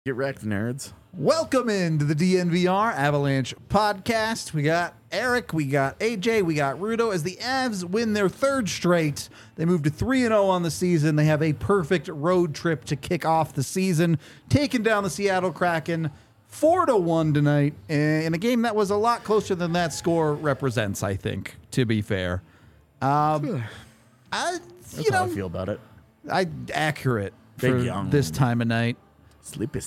Get wrecked, nerds. Welcome into the DNVR Avalanche podcast. We got Eric, we got AJ, we got Rudo. As the Avs win their third straight, they move to 3-0 on the season. They have a perfect road trip to kick off the season, taking down the Seattle Kraken 4-1 tonight in a game that was a lot closer than that score represents, I think, to be fair. That's how I feel about it. Accurate Big for young. this time of night. Sleepy.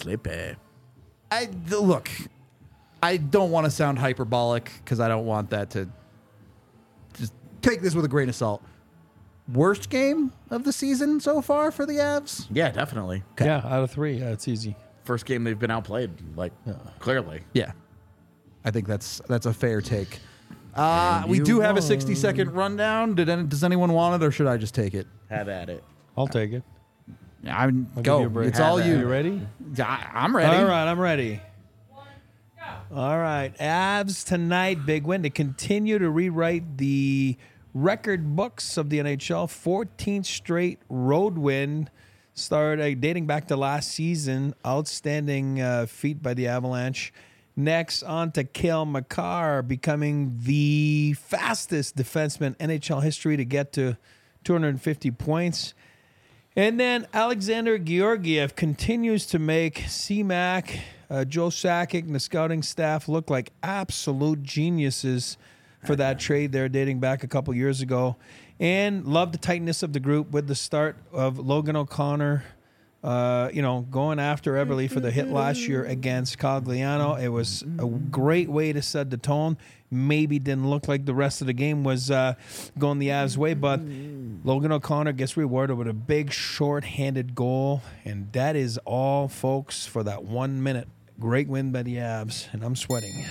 Look, I don't want to sound hyperbolic because I don't want that to just take this with a grain of salt. Worst game of the season so far for the Avs? Yeah, definitely. Yeah, out of 3. Yeah, it's easy. First game they've been outplayed, clearly. Yeah. I think that's a fair take. We do have a 60-second rundown. Does anyone want it, or should I just take it? Have at it. I'll take it. I'll give go. you a break. It's all you. You ready? I'm ready. All right, I'm ready. All right, Avs tonight, big win to continue to rewrite the record books of the NHL. 14th straight road win, started dating back to last season. Outstanding feat by the Avalanche. Next, on to Cale Makar, becoming the fastest defenseman in NHL history to get to 250 points. And then Alexander Georgiev continues to make C-Mac, Joe Sakic, and the scouting staff look like absolute geniuses for that trade there dating back a couple years ago. And love the tightness of the group with the start of Logan O'Connor, going after Everly for the hit last year against Cogliano. It was a great way to set the tone. Maybe didn't look like the rest of the game was going the Avs' way, but Logan O'Connor gets rewarded with a big short-handed goal, and that is all, folks, for that 1 minute. Great win by the Avs, and I'm sweating.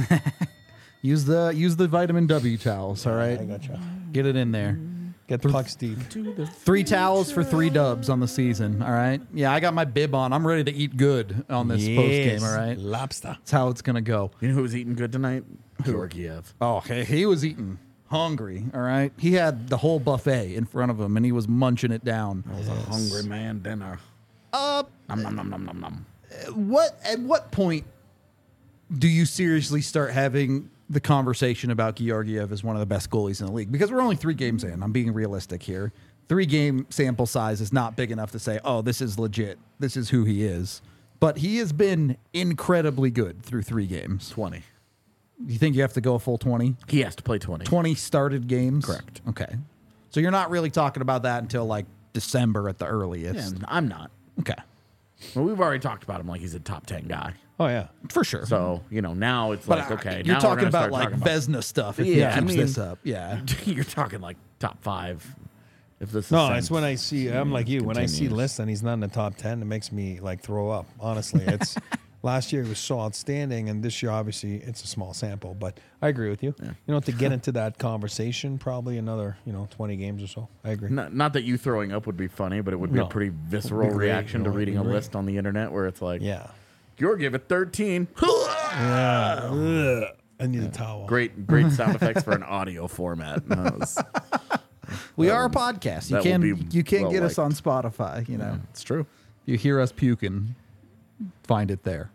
Use the vitamin W towels, all right? I gotcha. Get it in there. Get the puck, Steve. 3 towels for 3 dubs on the season, all right? Yeah, I got my bib on. I'm ready to eat good on this post-game, all right? Lobster. That's how it's going to go. You know who was eating good tonight? Georgiev. Oh, he was eating hungry, all right? He had the whole buffet in front of him, and he was munching it down. That was a hungry man dinner. Nom, nom, nom, nom, nom, nom. At what point do you seriously start having the conversation about Georgiev as one of the best goalies in the league? Because we're only 3 games in. I'm being realistic here. 3-game sample size is not big enough to say, oh, this is legit. This is who he is. But he has been incredibly good through 3 games. 20. You think you have to go a full 20? He has to play 20. 20 started games? Correct. Okay. So you're not really talking about that until like December at the earliest. Yeah, I'm not. Okay. Well, we've already talked about him like he's a top 10 guy. Oh, yeah. For sure. So, now it's But like, okay. you're now talking we're gonna about start like talking Vesna stuff if Yeah, he I keeps mean- this up. Yeah. You're talking like top 5. If this No, is it's when I see, I'm like you, when I see continues. lists and he's not in the top 10, it makes me like throw up. Honestly, it's last year he was so outstanding, and this year, obviously, it's a small sample, but I agree with you. Yeah. To get into that conversation, probably another, 20 games or so. I agree. Not that you throwing up would be funny, but it would be a No. pretty visceral great, reaction to it'd be reading a great. list on the internet where it's like, Yeah. Georgiev at 13. Yeah. Ugh. I need a towel. Great sound effects for an audio format. That was- We are a podcast. You that will can be you can't well get us on liked. Spotify, it's true. You hear us puking, find it there.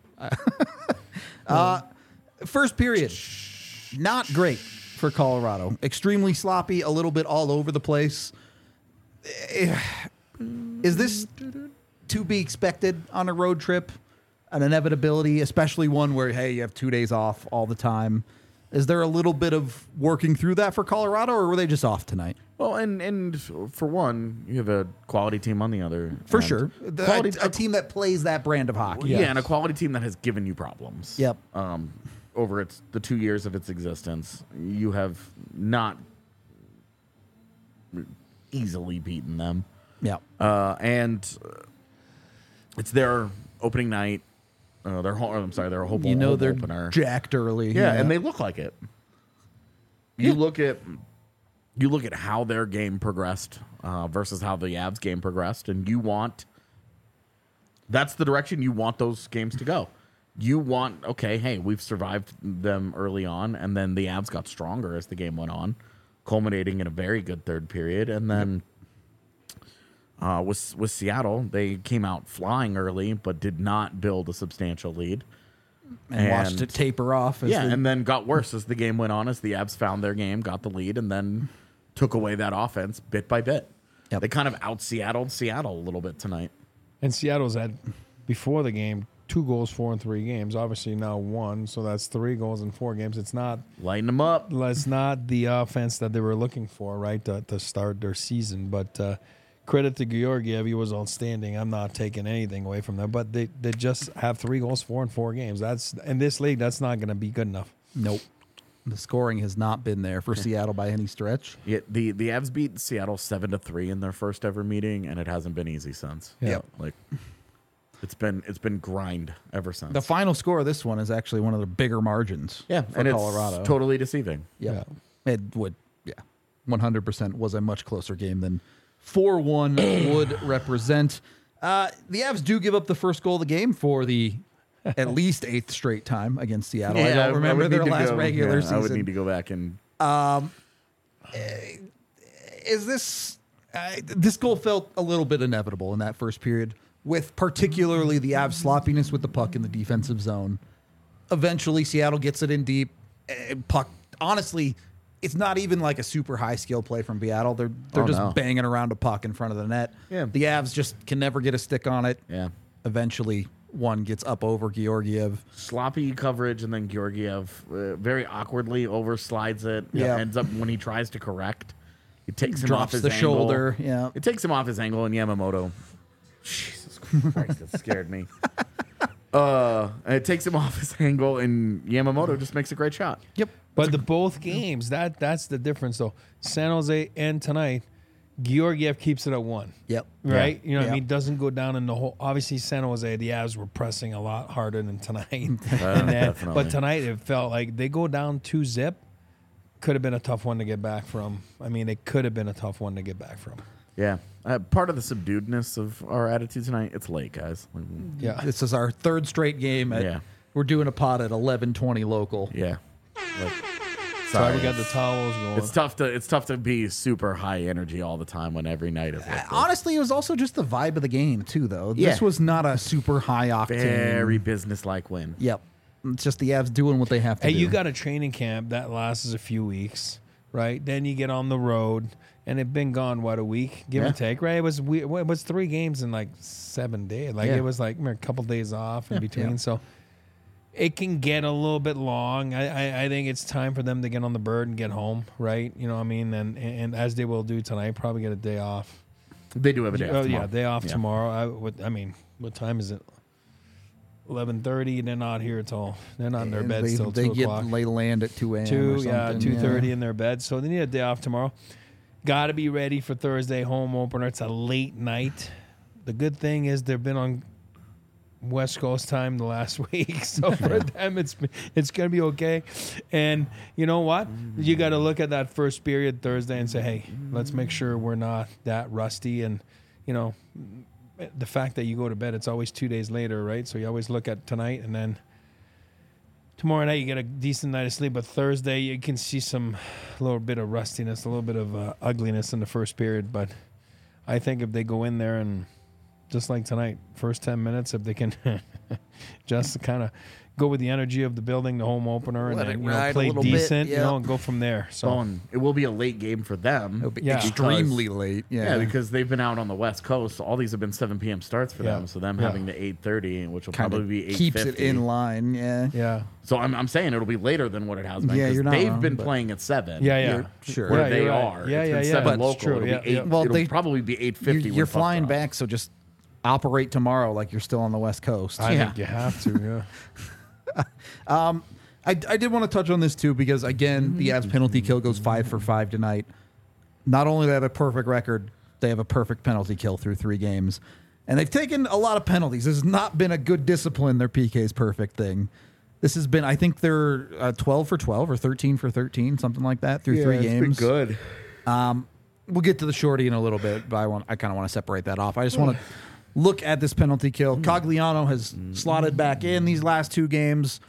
First period, not great for Colorado. Extremely sloppy, a little bit all over the place. Is this to be expected on a road trip? An inevitability, especially one where, hey, you have 2 days off all the time. Is there a little bit of working through that for Colorado, or were they just off tonight? Well, and for one, you have a quality team on the other. For end. sure. A team that plays that brand of hockey. Yeah, and a quality team that has given you problems. Yep. Over the 2 years of its existence, you have not easily beaten them. Yeah. And it's their opening night. Their home They're opener. jacked early. Yeah, and they look like it. You look at how their game progressed versus how the Avs game progressed, and that's the direction you want those games to go. You want, okay, hey, we've survived them early on, and then the Avs got stronger as the game went on, culminating in a very good third period, and then With Seattle, they came out flying early, but did not build a substantial lead. And watched it taper off. And then got worse as the game went on, as the Avs found their game, got the lead, and then took away that offense bit by bit. Yep. They kind of out-Seattled Seattle a little bit tonight. And Seattle's had, before the game, 2 goals, 4 in 3 games. Obviously now 1, so that's 3 goals in 4 games. It's not Lighten them up. the offense that they were looking for, right, to start their season. But credit to Georgiev, he was outstanding. I'm not taking anything away from them, but they just have 3 goals, 4 in 4 games. That's in this league. That's not going to be good enough. Nope. The scoring has not been there for Seattle by any stretch. Yeah, the Avs beat Seattle 7-3 in their first ever meeting, and it hasn't been easy since. Yeah. Yep. Like it's been grind ever since. The final score of this one is actually one of the bigger margins. Yeah, for and Colorado. it's totally deceiving. Yep. It would, 100% was a much closer game than 4-1 would represent. The Avs do give up the first goal of the game for the at least 8th straight time against Seattle. I don't remember their last regular season. I would need to go back and. Is this this goal felt a little bit inevitable in that first period, with particularly the Avs sloppiness with the puck in the defensive zone. Eventually, Seattle gets it in deep. Puck, honestly, it's not even like a super high skill play from Seattle. They're just banging around a puck in front of the net. Yeah. The Avs just can never get a stick on it. Yeah. Eventually, one gets up over Georgiev. Sloppy coverage, and then Georgiev very awkwardly overslides it. Yeah. Ends up when he tries to correct, it takes him Drops off his the angle. shoulder. Yeah. It takes him off his angle, and Yamamoto. Jesus Christ, that scared me. It takes him off his angle, and Yamamoto just makes a great shot. Yep. But both games, that's the difference, though. San Jose and tonight, Georgiev keeps it at 1. Yep. Right? You know what I Yeah. mean? Doesn't go down in the whole. Obviously, San Jose, the Avs were pressing a lot harder than tonight. And then, Definitely. but tonight, it felt like they go down 2-0. Could have been a tough one to get back from. I mean, it could have been a tough one to get back from. Yeah. Part of the subduedness of our attitude tonight, it's late, guys. Like, Yeah. This is our 3rd straight game. Yeah. We're doing a pod at 11:20 local. yeah. Like, Sorry, we got the towels going. It's tough to be super high energy all the time when every night is like this. Honestly, it was also just the vibe of the game too, though. Yeah. This was not a super high octane. Very business-like win. Yep. It's just the Avs doing what they have to Hey, do. you got a training camp that lasts a few weeks, right? Then you get on the road, and it's been gone, a week, give and Yeah. take, right? It was 3 games in like 7 days. Like Yeah. it was like a couple days off in between. Yeah. So it can get a little bit long. I think it's time for them to get on the bird and get home, right? You know what I mean? And as they will do tonight, probably get a day off. They do have a day off Oh tomorrow. yeah, day off Yeah. tomorrow. I mean, what time is it? 11:30. They're not here till they're not in their beds till 2 They o'clock. get lay land at 2 a.m. or 2:30 in their bed. So they need a day off tomorrow. Got to be ready for Thursday home opener. It's a late night. The good thing is they've been on West Coast time the last week, so for them it's going to be okay. And you know what? You got to look at that first period Thursday and say, hey, let's make sure we're not that rusty. And you know, the fact that you go to bed, it's always 2 days later, right? So you always look at tonight and then. Tomorrow night you get a decent night of sleep, but Thursday you can see a little bit of rustiness, a little bit of ugliness in the first period. But I think if they go in there and just like tonight, first 10 minutes, if they can just kind of go with the energy of the building, the home opener, and Let then it you know, ride a play little bit, decent, yeah. you know, and go from there. So And it will be a late game for them. It'll be Yeah. extremely late. Yeah, because they've been out on the West Coast. All these have been 7 p.m. starts for Yeah. them. So them Yeah. having the 8:30, which will kind probably of be 8:50. keeps it in line. Yeah. yeah, So I'm saying it'll be later than what it has been. Yeah, 'cause you're not they've wrong, been but- playing at 7. yeah, yeah. You're- sure. Where Yeah, they you're right. are. Yeah, It's yeah, been yeah. 7 That's local. true. It'll Yeah, be 8. yeah. Well, It'll they- probably be 8:50. You're when puck flying drops. back, so just operate tomorrow like you're still on the West Coast. I Yeah. think you have to. Yeah. I did want to touch on this too because again, the Avs penalty kill goes 5 for 5 tonight. Not only do they have a perfect record, they have a perfect penalty kill through 3 games, and they've taken a lot of penalties. This has not been a good discipline. Their PK's perfect thing. This has been, I think they're 12 for 12 or 13 for 13, something like that through 3 games. good. We'll get to the shorty in a little bit, but I kind of want to separate that off. I just want to look at this penalty kill. Cogliano has slotted back in these last 2 games.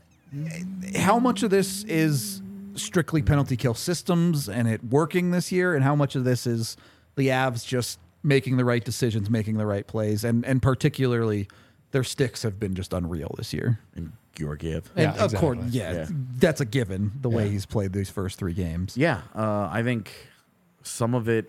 How much of this is strictly penalty kill systems and it working this year, and how much of this is the Avs just making the right decisions, making the right plays, and particularly their sticks have been just unreal this year. And Georgiev. And Yeah, of course, exactly. Yeah. that's a given. The way Yeah. he's played these first 3 games. Yeah, I think some of it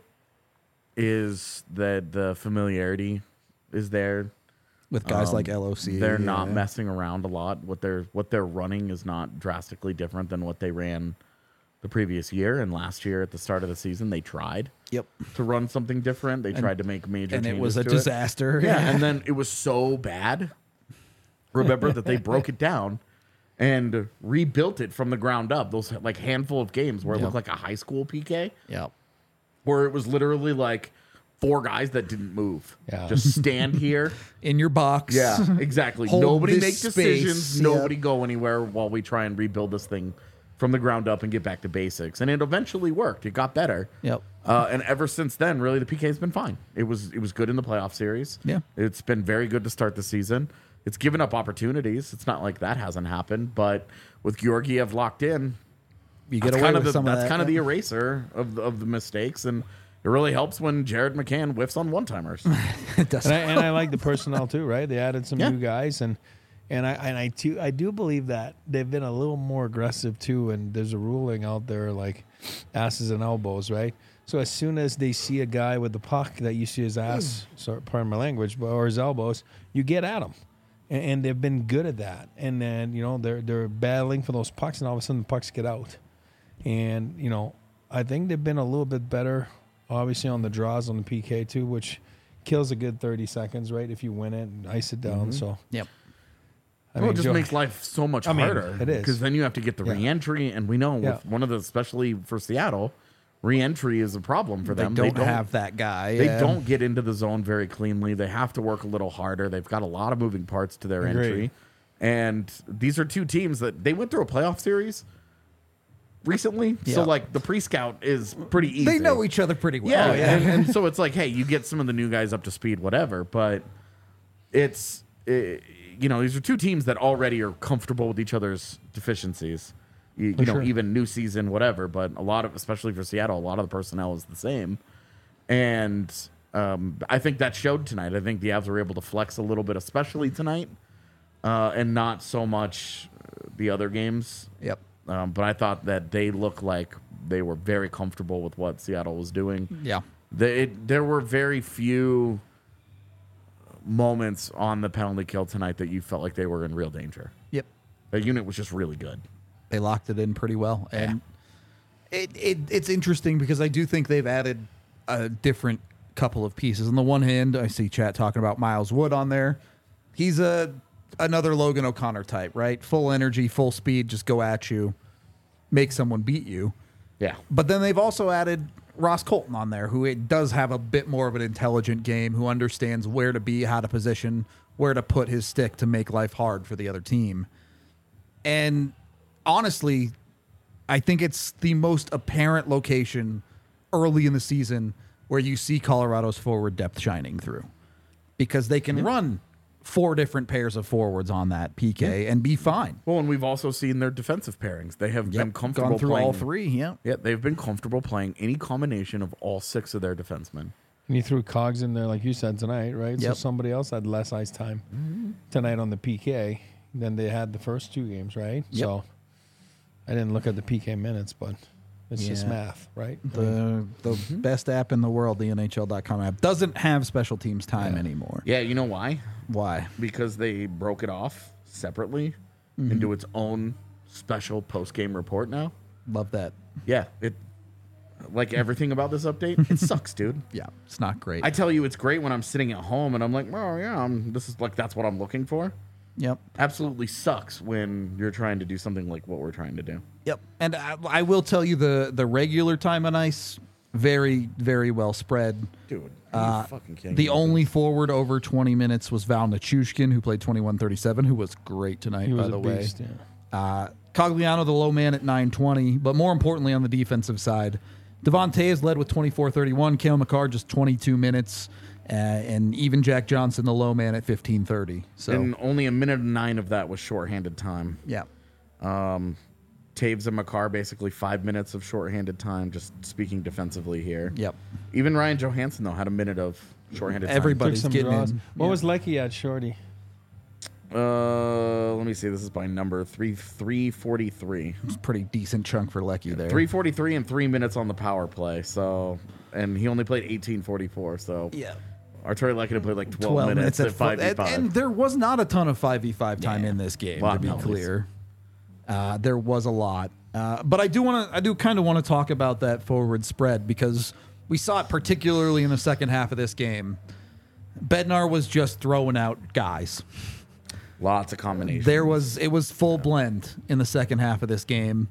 is that the familiarity is there. With guys like LOC, They're not messing around a lot. What they're running is not drastically different than what they ran the previous year. And last year at the start of the season, they tried Yep, to run something different. They tried to make major and changes it was a to disaster. Yeah, and then it was so bad. Remember that they broke it down and rebuilt it from the ground up. Those like handful of games where it Yep. looked like a high school PK, Yep. where it was literally like 4 guys that didn't move. Yeah. Just stand here. In your box. Yeah, exactly. Hold Nobody this make space. decisions. Yep. Nobody go anywhere while we try and rebuild this thing from the ground up and get back to basics. And it eventually worked. It got better. Yep. And ever since then, really, the PK's been fine. It was good in the playoff series. Yeah. It's been very good to start the season. It's given up opportunities. It's not like that hasn't happened. But with Georgiev locked in, You get that's away kind of with the, some of that's that. kind of the eraser of the mistakes. And it really helps when Jared McCann whiffs on one-timers. It does. And I like the personnel too, right? They added some Yeah. new guys, and I do believe that they've been a little more aggressive too. And there's a ruling out there like asses and elbows, right? So as soon as they see a guy with the puck that you see his ass, sorry, pardon my language, or his elbows, you get at him, and they've been good at that. And then they're battling for those pucks, and all of a sudden the pucks get out. And I think they've been a little bit better, obviously on the draws on the PK too, which kills a good 30 seconds, right? If you win it and ice it down. So Yep. I Well, it just Joe- makes life so much I mean, harder. it is. Because then you have to get the Yeah. re-entry. And we know Yeah. with one of the, especially for Seattle, re-entry is a problem for They them. don't have that guy. They yeah. don't get into the zone very cleanly. They have to work a little harder. They've got a lot of moving parts to their Agreed. entry. And these are 2 teams that they went through a playoff series recently. Yeah. So, like, the pre-scout is pretty easy. They know each other pretty well. Yeah, Oh, yeah. And so it's like, hey, you get some of the new guys up to speed, whatever. But it's, these are 2 teams that already are comfortable with each other's deficiencies. You know, sure. even new season, whatever. But a lot of, especially for Seattle, a lot of the personnel is the same. And I think that showed tonight. I think the Avs were able to flex a little bit, especially tonight, and not so much the other games. Yep. But I thought that they looked like they were very comfortable with what Seattle was doing. Yeah. There were very few moments on the penalty kill tonight that you felt like they were in real danger. Yep. The unit was just really good. They locked it in pretty well. And it's interesting because I do think they've added a different couple of pieces. On the one hand, I see chat talking about Miles Wood on there. He's another Logan O'Connor type, right? Full energy, full speed, just go at you, make someone beat you. Yeah. But then they've also added Ross Colton on there, who it does have a bit more of an intelligent game, who understands where to be, how to position, where to put his stick to make life hard for the other team. And honestly, I think it's the most apparent location early in the season where you see Colorado's forward depth shining through, because they can run 4 different pairs of forwards on that PK and be fine. Well, and we've also seen their defensive pairings. They have been comfortable Gone through playing all 3. Yeah. Yeah, they've been comfortable playing any combination of all 6 of their defensemen. And you threw Cogs in there, like you said tonight, right? So Yep. somebody else had less ice time tonight on the PK than they had the first 2 games, right? Yep. So I didn't look at the PK minutes, but it's just Yeah. math, right? I mean, The best app in the world, the NHL.com app, doesn't have special teams time anymore. Yeah, you know why? Why? Because they broke it off separately into its own special post-game report now. Love that. Yeah, it like everything about this update, it sucks, dude. Yeah, it's not great. I tell you, it's great when I'm sitting at home and I'm like, oh yeah, this is like that's what I'm looking for. Yep. Absolutely sucks when you're trying to do something like what we're trying to do. Yep. And I will tell you the regular time on ice, very, very well spread. Dude, are you fucking kidding The me? only forward over 20 minutes was Val Nichushkin, who played 21:37, who was great tonight, he was by the a way. beast, yeah. Cogliano, the low man at 9:20, but more importantly on the defensive side, Devontae is led with 24:31, Cale Makar just 22 minutes, and even Jack Johnson, the low man, at 15:30. So And only a minute and 9 of that was shorthanded time. yeah, Taves and Makar basically 5 minutes of shorthanded time, just speaking defensively here. Yep. Even Ryan Johansson, though, had a minute of shorthanded time. Everybody's Took some getting draws. in. What was Lecky at, Shorty? Let me see. This is by number 343. It's a pretty decent chunk for Lecky there. 343 and 3 minutes on the power play. So, and he only played 18:44. So, Yeah. Arturi Lekkinen played like 12 minutes at 5v5. And there was not a ton of 5v5 time in this game, Lot to be of clear. There was a lot. But I do kind of want to talk about that forward spread because we saw it particularly in the second half of this game. Bednar was just throwing out guys. Lots of combinations. It was full blend in the second half of this game.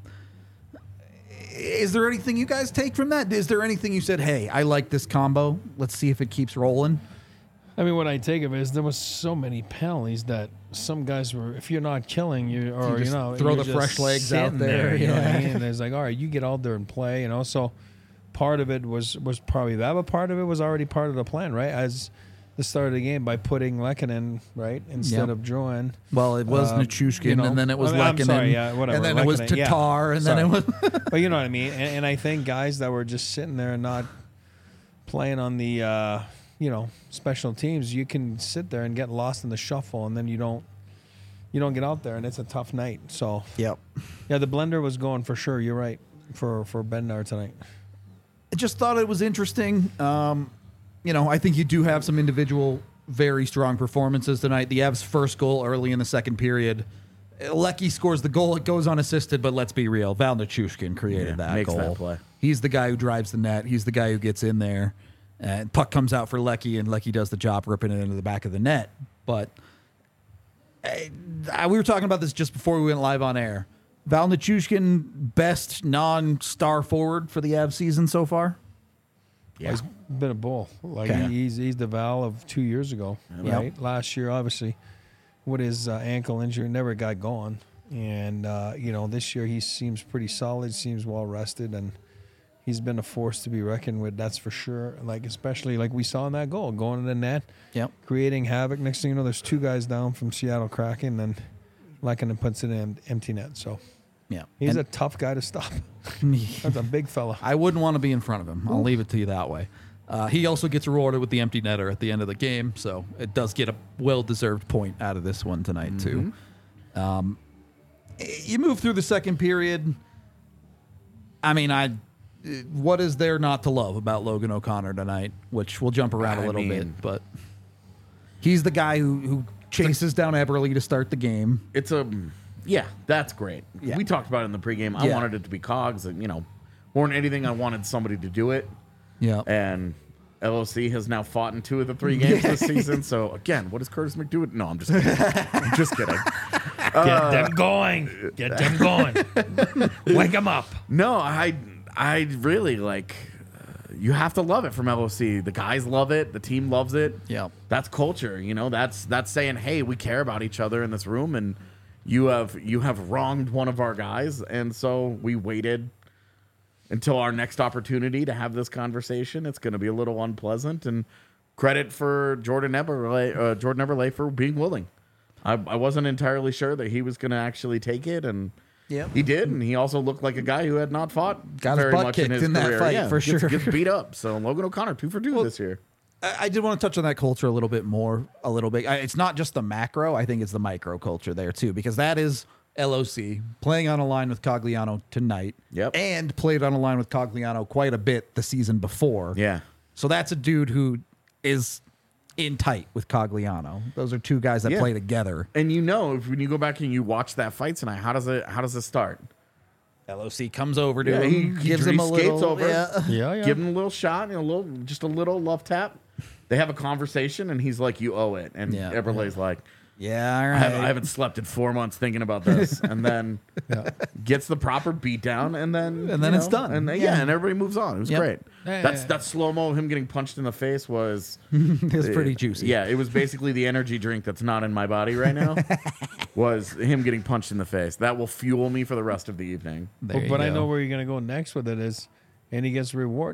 Is there anything you guys take from that? Is there anything you said, hey, I like this combo. Let's see if it keeps rolling? I mean, what I take of it is there was so many penalties that some guys were, if you're not killing, or just throw you're the fresh just legs out sitting there, You know what I yeah. mean? And it's like, all right, you get out there and play, So part of it was probably that, but part of it was already part of the plan, right? As the start of the game by putting Lekkinen, right, instead of Drouin. Well, it was Nichushkin, and then it was I'm Lekkinen, sorry, yeah, whatever. and then it was Lekkinen, yeah. Tatar, and then it was... But you know what I mean? And I think guys that were just sitting there and not playing on the, special teams, you can sit there and get lost in the shuffle, and then you don't get out there, and it's a tough night. So, Yep. yeah, the blender was going for sure. You're right for Bednar tonight. I just thought it was interesting. I think you do have some individual very strong performances tonight. The Avs' first goal early in the second period. Lecky scores the goal. It goes unassisted, but let's be real. Val Nichushkin created that makes goal. that play. He's the guy who drives the net. He's the guy who gets in there. And puck comes out for Lecky, and Lecky does the job ripping it into the back of the net. But we were talking about this just before we went live on air. Val Nichushkin, best non-star forward for the Avs season so far? Yeah. He's been a bull. Like Okay. he's the Val of 2 years ago, right? Last year, obviously, with his ankle injury, never got going. And, this year he seems pretty solid, seems well rested, and he's been a force to be reckoned with, that's for sure. Like, especially like we saw in that goal, going in the net, creating havoc. Next thing you know, there's two guys down from Seattle Kraken, and Lekkinen puts it in empty net. So Yeah. he's And a tough guy to stop. That's a big fella. I wouldn't want to be in front of him. I'll leave it to you that way. He also gets rewarded with the empty netter at the end of the game, so it does get a well-deserved point out of this one tonight, too. You move through the second period. I mean, what is there not to love about Logan O'Connor tonight? Which we'll jump around a little bit, but he's the guy who chases down Eberle to start the game. That's great. Yeah. We talked about it in the pregame. I wanted it to be Cogs, and more than anything, I wanted somebody to do it. Yeah. And LOC has now fought in 2 of the 3 games this season. So again, what does Curtis McDewitt? No, I'm just kidding. I'm just kidding. Get them going. Get them going. Wake them up. No, I really like. You have to love it from LOC. The guys love it. The team loves it. Yeah. That's culture. That's saying, hey, we care about each other in this room, and you have wronged one of our guys, and so we waited until our next opportunity to have this conversation. It's going to be a little unpleasant, and credit for Jordan Eberle for being willing. I wasn't entirely sure that he was going to actually take it, and he did, and he also looked like a guy who had not fought Got his very butt much kicked in his in that career. fight, for sure. Gets beat up. So Logan O'Connor 2 for 2 this year. I did want to touch on that culture a little bit. It's not just the macro. I think it's the micro culture there, too, because that is LOC playing on a line with Cogliano tonight. Yep. And played on a line with Cogliano quite a bit the season before. Yeah. So that's a dude who is in tight with Cogliano. Those are 2 guys that play together. And when you go back and you watch that fight tonight, how does it start? LOC comes over to Yeah, him, he gives him a skates little... over. Yeah. Give him a little shot, just a little love tap. They have a conversation, and he's like, "You owe it," and Yeah. Eberle's like, Yeah, all I right. haven't slept in 4 months thinking about this, and then gets the proper beat down, and then it's done. and then, Yeah. and everybody moves on. It was Yep. great. Yeah, That slow mo of him getting punched in the face was It's pretty juicy. Yeah, it was basically the energy drink that's not in my body right now. Was him getting punched in the face. That will fuel me for the rest of the evening. There you But I go. know where you're going to go next with it is, and he gets rewarded.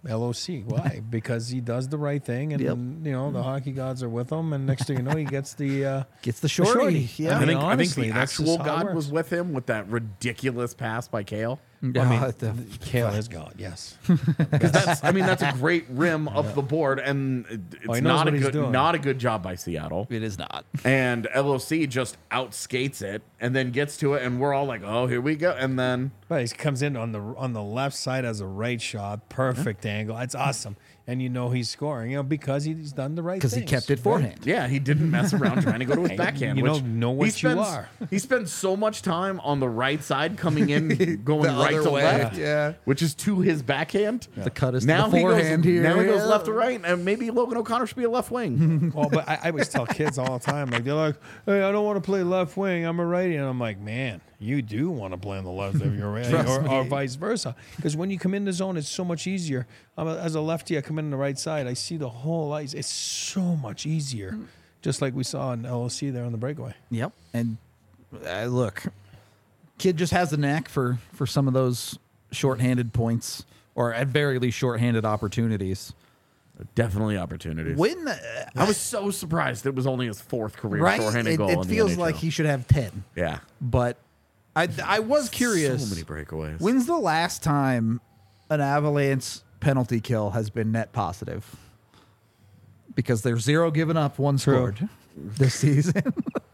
LOC. Why? Because he does the right thing, and Yep. you know the hockey gods are with him. And next thing you know, he gets the shorty. Yeah. I mean, I think honestly, the that's just actual how it God works. was with him with that ridiculous pass by Kale. Kale is God. Yes. That's a great rim up the board, and Oh, he it's knows not what he's doing. not a good job by Seattle. It is not. And LOC just outskates it and then gets to it, and we're all like, "Oh, here we go!" And then But he comes in on the left side as a right shot, perfect angle. It's awesome, and you know he's scoring, because he's done the right thing. Because he kept it forehand. yeah, he didn't mess around trying to go to his backhand. You which know what he you spends, are. He spends so much time on the right side, coming in, going The right other to way, left, yeah. which is to his backhand. The cut is to Now the he goes. forehand here. Now he goes Yeah. left to right, and maybe Logan O'Connor should be a left wing. Well, but I always tell kids all the time, like they're like, "Hey, I don't want to play left wing. I'm a righty," and I'm like, "Man, you do want to play on the left if you're righty, or vice versa." Because when you come in the zone, it's so much easier. As a lefty, I come in on the right side. I see the whole ice. It's so much easier, just like we saw in LOC there on the breakaway. Yep. And look, kid just has the knack for some of those shorthanded points, or at very least shorthanded opportunities. Definitely opportunities. When I was so surprised it was only his fourth career right, shorthanded goal. it in the feels NHL. like he should have 10. Yeah, But I was curious. so many breakaways. When's the last time an Avalanche penalty kill has been net positive? Because there's 0 given up, 1 scored this season.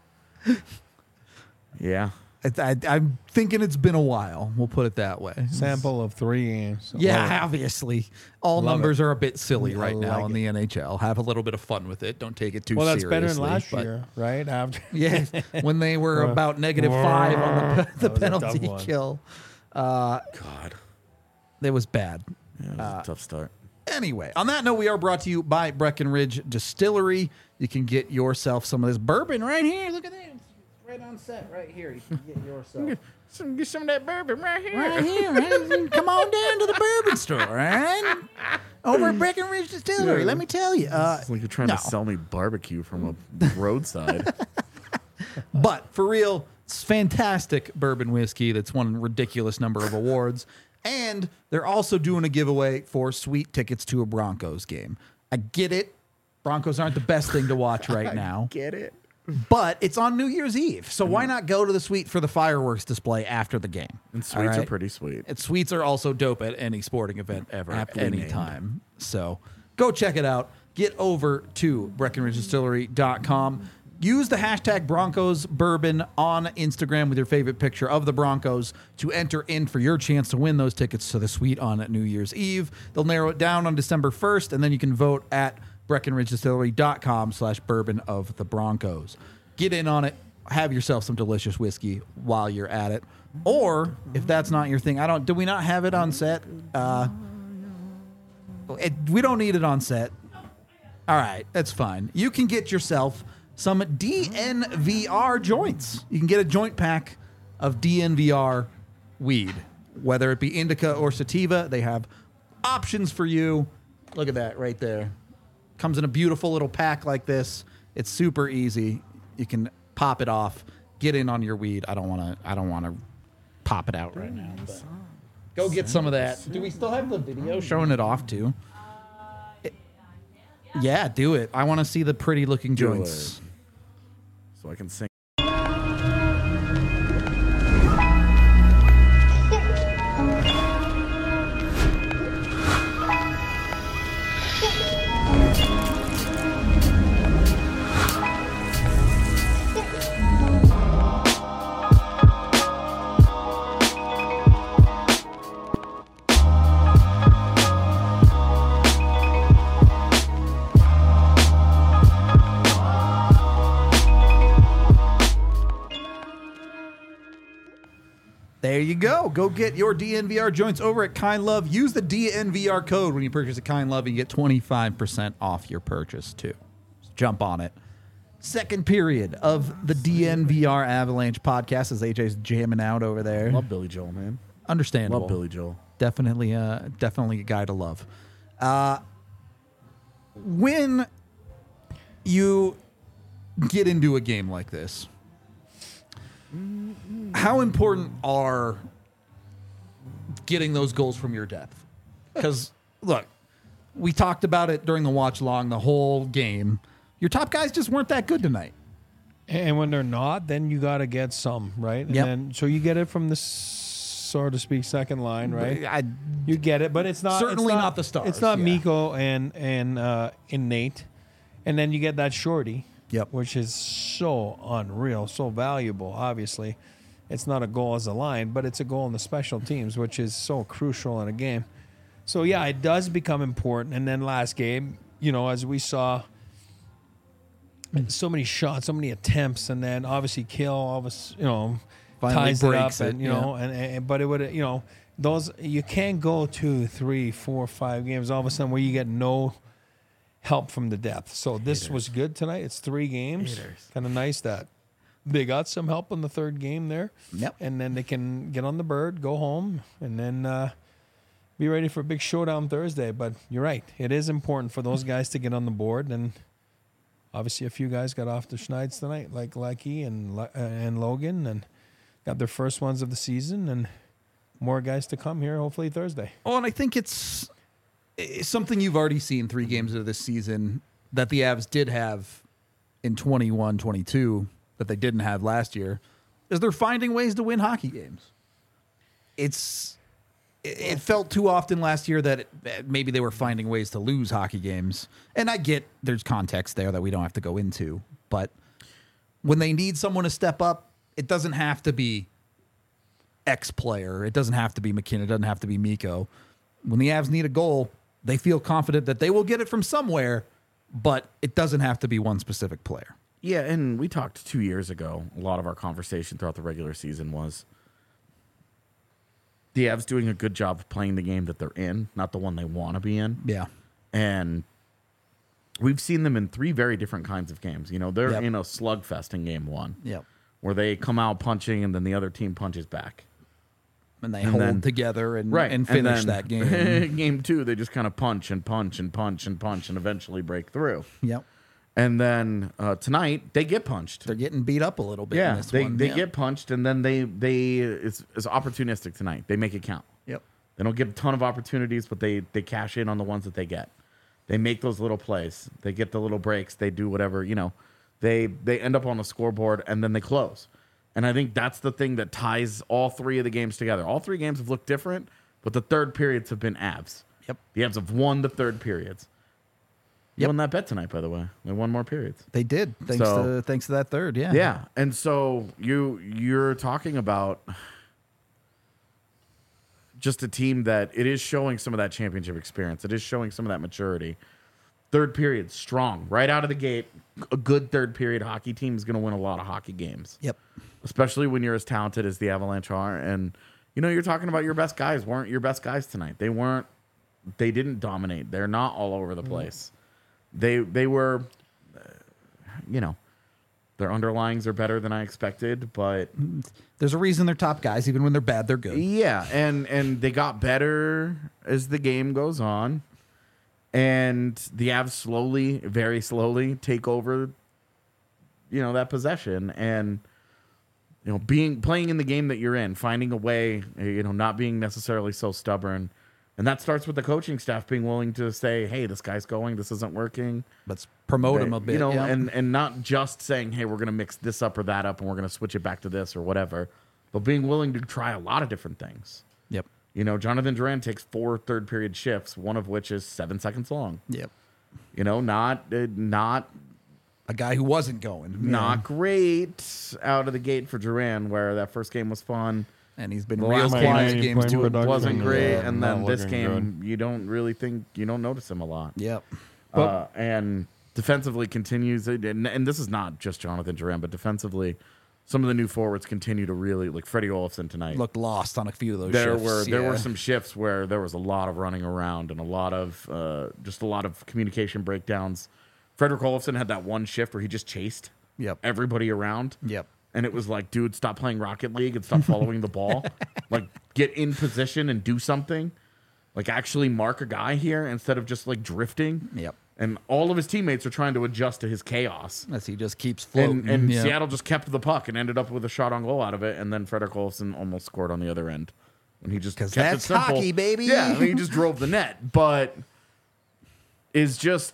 Yeah, I'm thinking it's been a while. We'll put it that way. Sample of 3 games. So Yeah, obviously. All Love numbers are a bit silly right now like in the NHL. Have a little bit of fun with it. Don't take it too Well, that's seriously. better than last but- year, right? After Yeah, when they were about -5 on the That was a tough penalty one. kill. God, It was bad. yeah, it was a tough start. Anyway, on that note, we are brought to you by Breckenridge Distillery. You can get yourself some of this bourbon right here. Look at that. It's right on set right here. You can get yourself. Get some of that bourbon right here. Right here, right? Come on down to the bourbon store, right? Over at Breckenridge Distillery. Let me tell you. It's like you're trying no. to sell me barbecue from a roadside. But for real, it's fantastic bourbon whiskey that's won a ridiculous number of awards. And they're also doing a giveaway for sweet tickets to a Broncos game. I get it. Broncos aren't the best thing to watch right now. Get it? But it's on New Year's Eve. So why not go to the suite for the fireworks display after the game? And All sweets are right? pretty sweet. And suites are also dope at any sporting event ever, Aptly any named. time. So go check it out. Get over to BreckenridgeDistillery.com. Use the hashtag Broncos Bourbon on Instagram with your favorite picture of the Broncos to enter in for your chance to win those tickets to the suite on New Year's Eve. They'll narrow it down on December 1st, and then you can vote at BreckenridgeDistillery.com/bourbon of the Broncos. Get in on it. Have yourself some delicious whiskey while you're at it. Or if that's not your thing, do we not have it on set? We don't need it on set. All right, that's fine. You can get yourself some DNVR joints. You can get a joint pack of DNVR weed, whether it be indica or sativa. They have options for you. Look at that right there. Comes in a beautiful little pack like this. It's super easy. You can pop it off. Get in on your weed. I don't want to pop it out right now. But go get some of that. Do we still have the video showing it off too? Yeah, do it. I want to see the pretty looking Do joints. it. So I can sing. There you go. Go get your DNVR joints over at Kind Love. Use the DNVR code when you purchase at Kind Love and you get 25% off your purchase too. So jump on it. Second period of the DNVR Avalanche podcast as AJ's jamming out over there. Love Billy Joel, man. Understandable. Love Billy Joel. Definitely a guy to love. When you get into a game like this, how important are getting those goals from your depth? Because, look, we talked about it during the watch long the whole game. Your top guys just weren't that good tonight. And when they're not, then you got to get some, right? And Yep. then, so you get it from the, so to speak, second line, right? You get it, but it's not Certainly it's not the stars, It's not yeah. Miko and Nate, and then you get that shorty, Yep. which is so unreal, so valuable. Obviously, it's not a goal as a line, but it's a goal in the special teams, which is so crucial in a game. So yeah, it does become important. And then last game, as we saw, so many shots, so many attempts, and then obviously Kill, Finally ties it up, breaks it, and and but it would, those you can't go 2, 3, 4, 5 games all of a sudden where you get no help from the depth. So this was good tonight. It's 3 games. Kind of nice that they got some help in the third game there. Yep. And then they can get on the bird, go home, and then be ready for a big showdown Thursday. But you're right. It is important for those guys to get on the board. And obviously a few guys got off the schneid tonight, like Lecky and Logan, and got their first ones of the season. And more guys to come here, hopefully Thursday. Oh, and I think it's something you've already seen 3 games of this season that the Avs did have in 21-22 that they didn't have last year, is they're finding ways to win hockey games. It felt too often last year that maybe they were finding ways to lose hockey games. And I get there's context there that we don't have to go into. But when they need someone to step up, it doesn't have to be X player. It doesn't have to be McKinnon. It doesn't have to be Miko. When the Avs need a goal, they feel confident that they will get it from somewhere, but it doesn't have to be one specific player. Yeah, and we talked 2 years ago. A lot of our conversation throughout the regular season was the Avs doing a good job of playing the game that they're in, not the one they want to be in. Yeah. And we've seen them in 3 very different kinds of games. They're Yep. in a slugfest in game 1. Yep. Where they come out punching and then the other team punches back. And they And hold then- together and And finish then that game. game 2, they just kind of punch and punch and punch and punch and eventually break through. Yep. And then tonight, they get punched. They're getting beat up a little bit in Yeah, this they one. get punched, and then it's opportunistic tonight. They make it count. Yep. They don't get a ton of opportunities, but they cash in on the ones that they get. They make those little plays. They get the little breaks. They do whatever, They end up on the scoreboard, and then they close. And I think that's the thing that ties all 3 of the games together. All 3 games have looked different, but the third periods have been Avs. Yep. The Avs have won the third periods. You Yep. won that bet tonight, by the way. They won more periods. They did. Thanks to that third, yeah. Yeah, and so you're talking about just a team that it is showing some of that championship experience. It is showing some of that maturity. Third period, strong. Right out of the gate, a good third period hockey team is going to win a lot of hockey games. Yep. Especially when you're as talented as the Avalanche are. And, you're talking about your best guys weren't your best guys tonight. They didn't dominate. They're not all over the place. They were, their underlyings are better than I expected, but There's a reason they're top guys. Even when they're bad, they're good. yeah, and they got better as the game goes on, and the Avs slowly, very slowly, take over, that possession, and playing in the game that you're in, finding a way, not being necessarily so stubborn. And that starts with the coaching staff being willing to say, hey, this guy's going, this isn't working. Let's promote him a bit. yeah. and not just saying, hey, we're going to mix this up or that up and we're going to switch it back to this or whatever, but being willing to try a lot of different things. Yep. Jonathan Duran takes 4 third period shifts, one of which is 7 seconds long. Yep. Not A guy who wasn't going. not great out of the gate for Duran, where that first game was fun. And he's been The real last quiet game, games too. production, wasn't great, yeah, and not then this looking game, you don't notice him a lot. Yep. And defensively continues, and this is not just Jonathan Duran, but defensively, some of the new forwards continue to really, like Freddie Olofsson tonight. Looked lost on a few of those there shifts. were some shifts where there was a lot of running around and a lot of communication breakdowns. Frederick Olofsson had that one shift where he just chased everybody around. Yep. And it was like, dude, stop playing Rocket League and stop following the ball. Like, get in position and do something. Like, actually mark a guy here instead of just, like, drifting. Yep. And all of his teammates are trying to adjust to his chaos. As he just keeps floating. And Yep. Seattle just kept the puck and ended up with a shot on goal out of it. And then Frederick Olofsson almost scored on the other end. And he just kept that's it simple. hockey, baby. Yeah, I mean, he just drove the net. But is just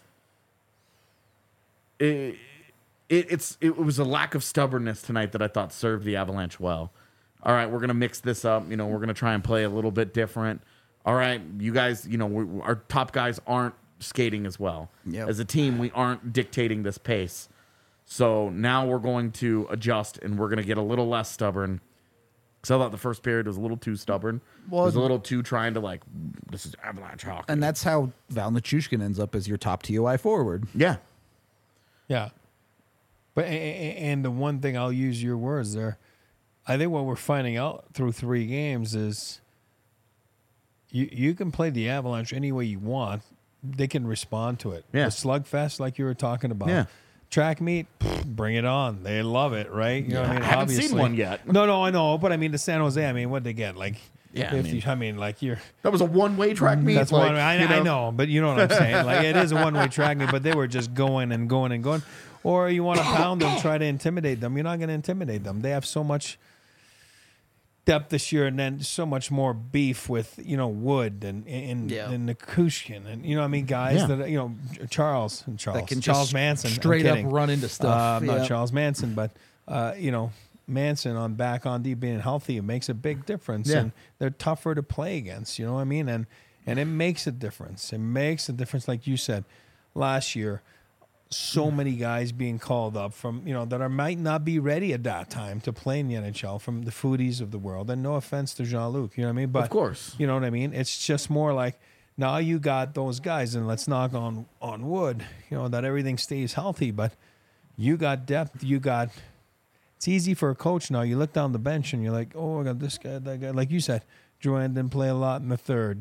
it was a lack of stubbornness tonight that I thought served the Avalanche well. All right, we're going to mix this up. We're going to try and play a little bit different. All right, you guys, our top guys aren't skating as well. Yep. As a team, we aren't dictating this pace. So now we're going to adjust, and we're going to get a little less stubborn. Because I thought the first period was a little too stubborn. Well, it was a little too trying to, this is Avalanche hockey. And that's how Val Nichushkin ends up as your top TOI forward. Yeah. Yeah. But and the one thing, I'll use your words there, I think what we're finding out through 3 games is you can play the Avalanche any way you want. They can respond to it. Yeah. The slugfest, like you were talking about. Yeah. Track meet, bring it on. They love it, right? You know what I mean? I haven't Obviously. seen one yet. No, I know. But I mean, the San Jose, what'd they get? Yeah, you're. That was a one-way track meet. That's one. I know, but you know what I'm saying. It is a one-way track meet, but they were just going and going and going. Or you want to pound them, try to intimidate them. You're not going to intimidate them. They have so much depth this year, and then so much more beef with Wood and Nichushkin, and guys that Charles That can Charles just Manson, straight up run into stuff. Not Charles Manson, but Manson on back on D being healthy, it makes a big difference, and they're tougher to play against. You know what I mean? And it makes a difference. It makes a difference, like you said last year. So many guys being called up from, that might not be ready at that time to play in the NHL, from the foodies of the world. And no offense to Jean-Luc, you know what I mean? But, of course. You know what I mean? It's just more like, now you got those guys, and let's knock on wood, that everything stays healthy. But you got depth. It's easy for a coach now. You look down the bench, and you're like, oh, I got this guy, that guy. Like you said, Drouin didn't play a lot in the third,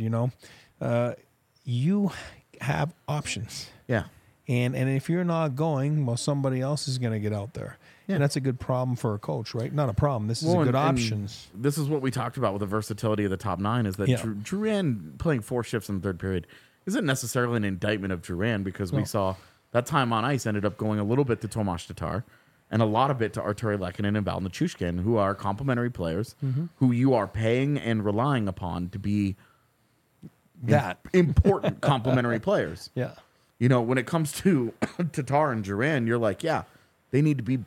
You have options. Yeah. And if you're not going, well, somebody else is going to get out there. Yeah. And that's a good problem for a coach, right? Not a problem. This is a good option. This is what we talked about with the versatility of the top 9, is that Drouin playing 4 shifts in the third period isn't necessarily an indictment of Drouin, because we saw that time on ice ended up going a little bit to Tomas Tatar and a lot of it to Artturi Lehkonen and Val Nichushkin, who are complementary players who you are paying and relying upon to be important complementary players. Yeah. When it comes to Tatar and Drouin, you're like, they need to be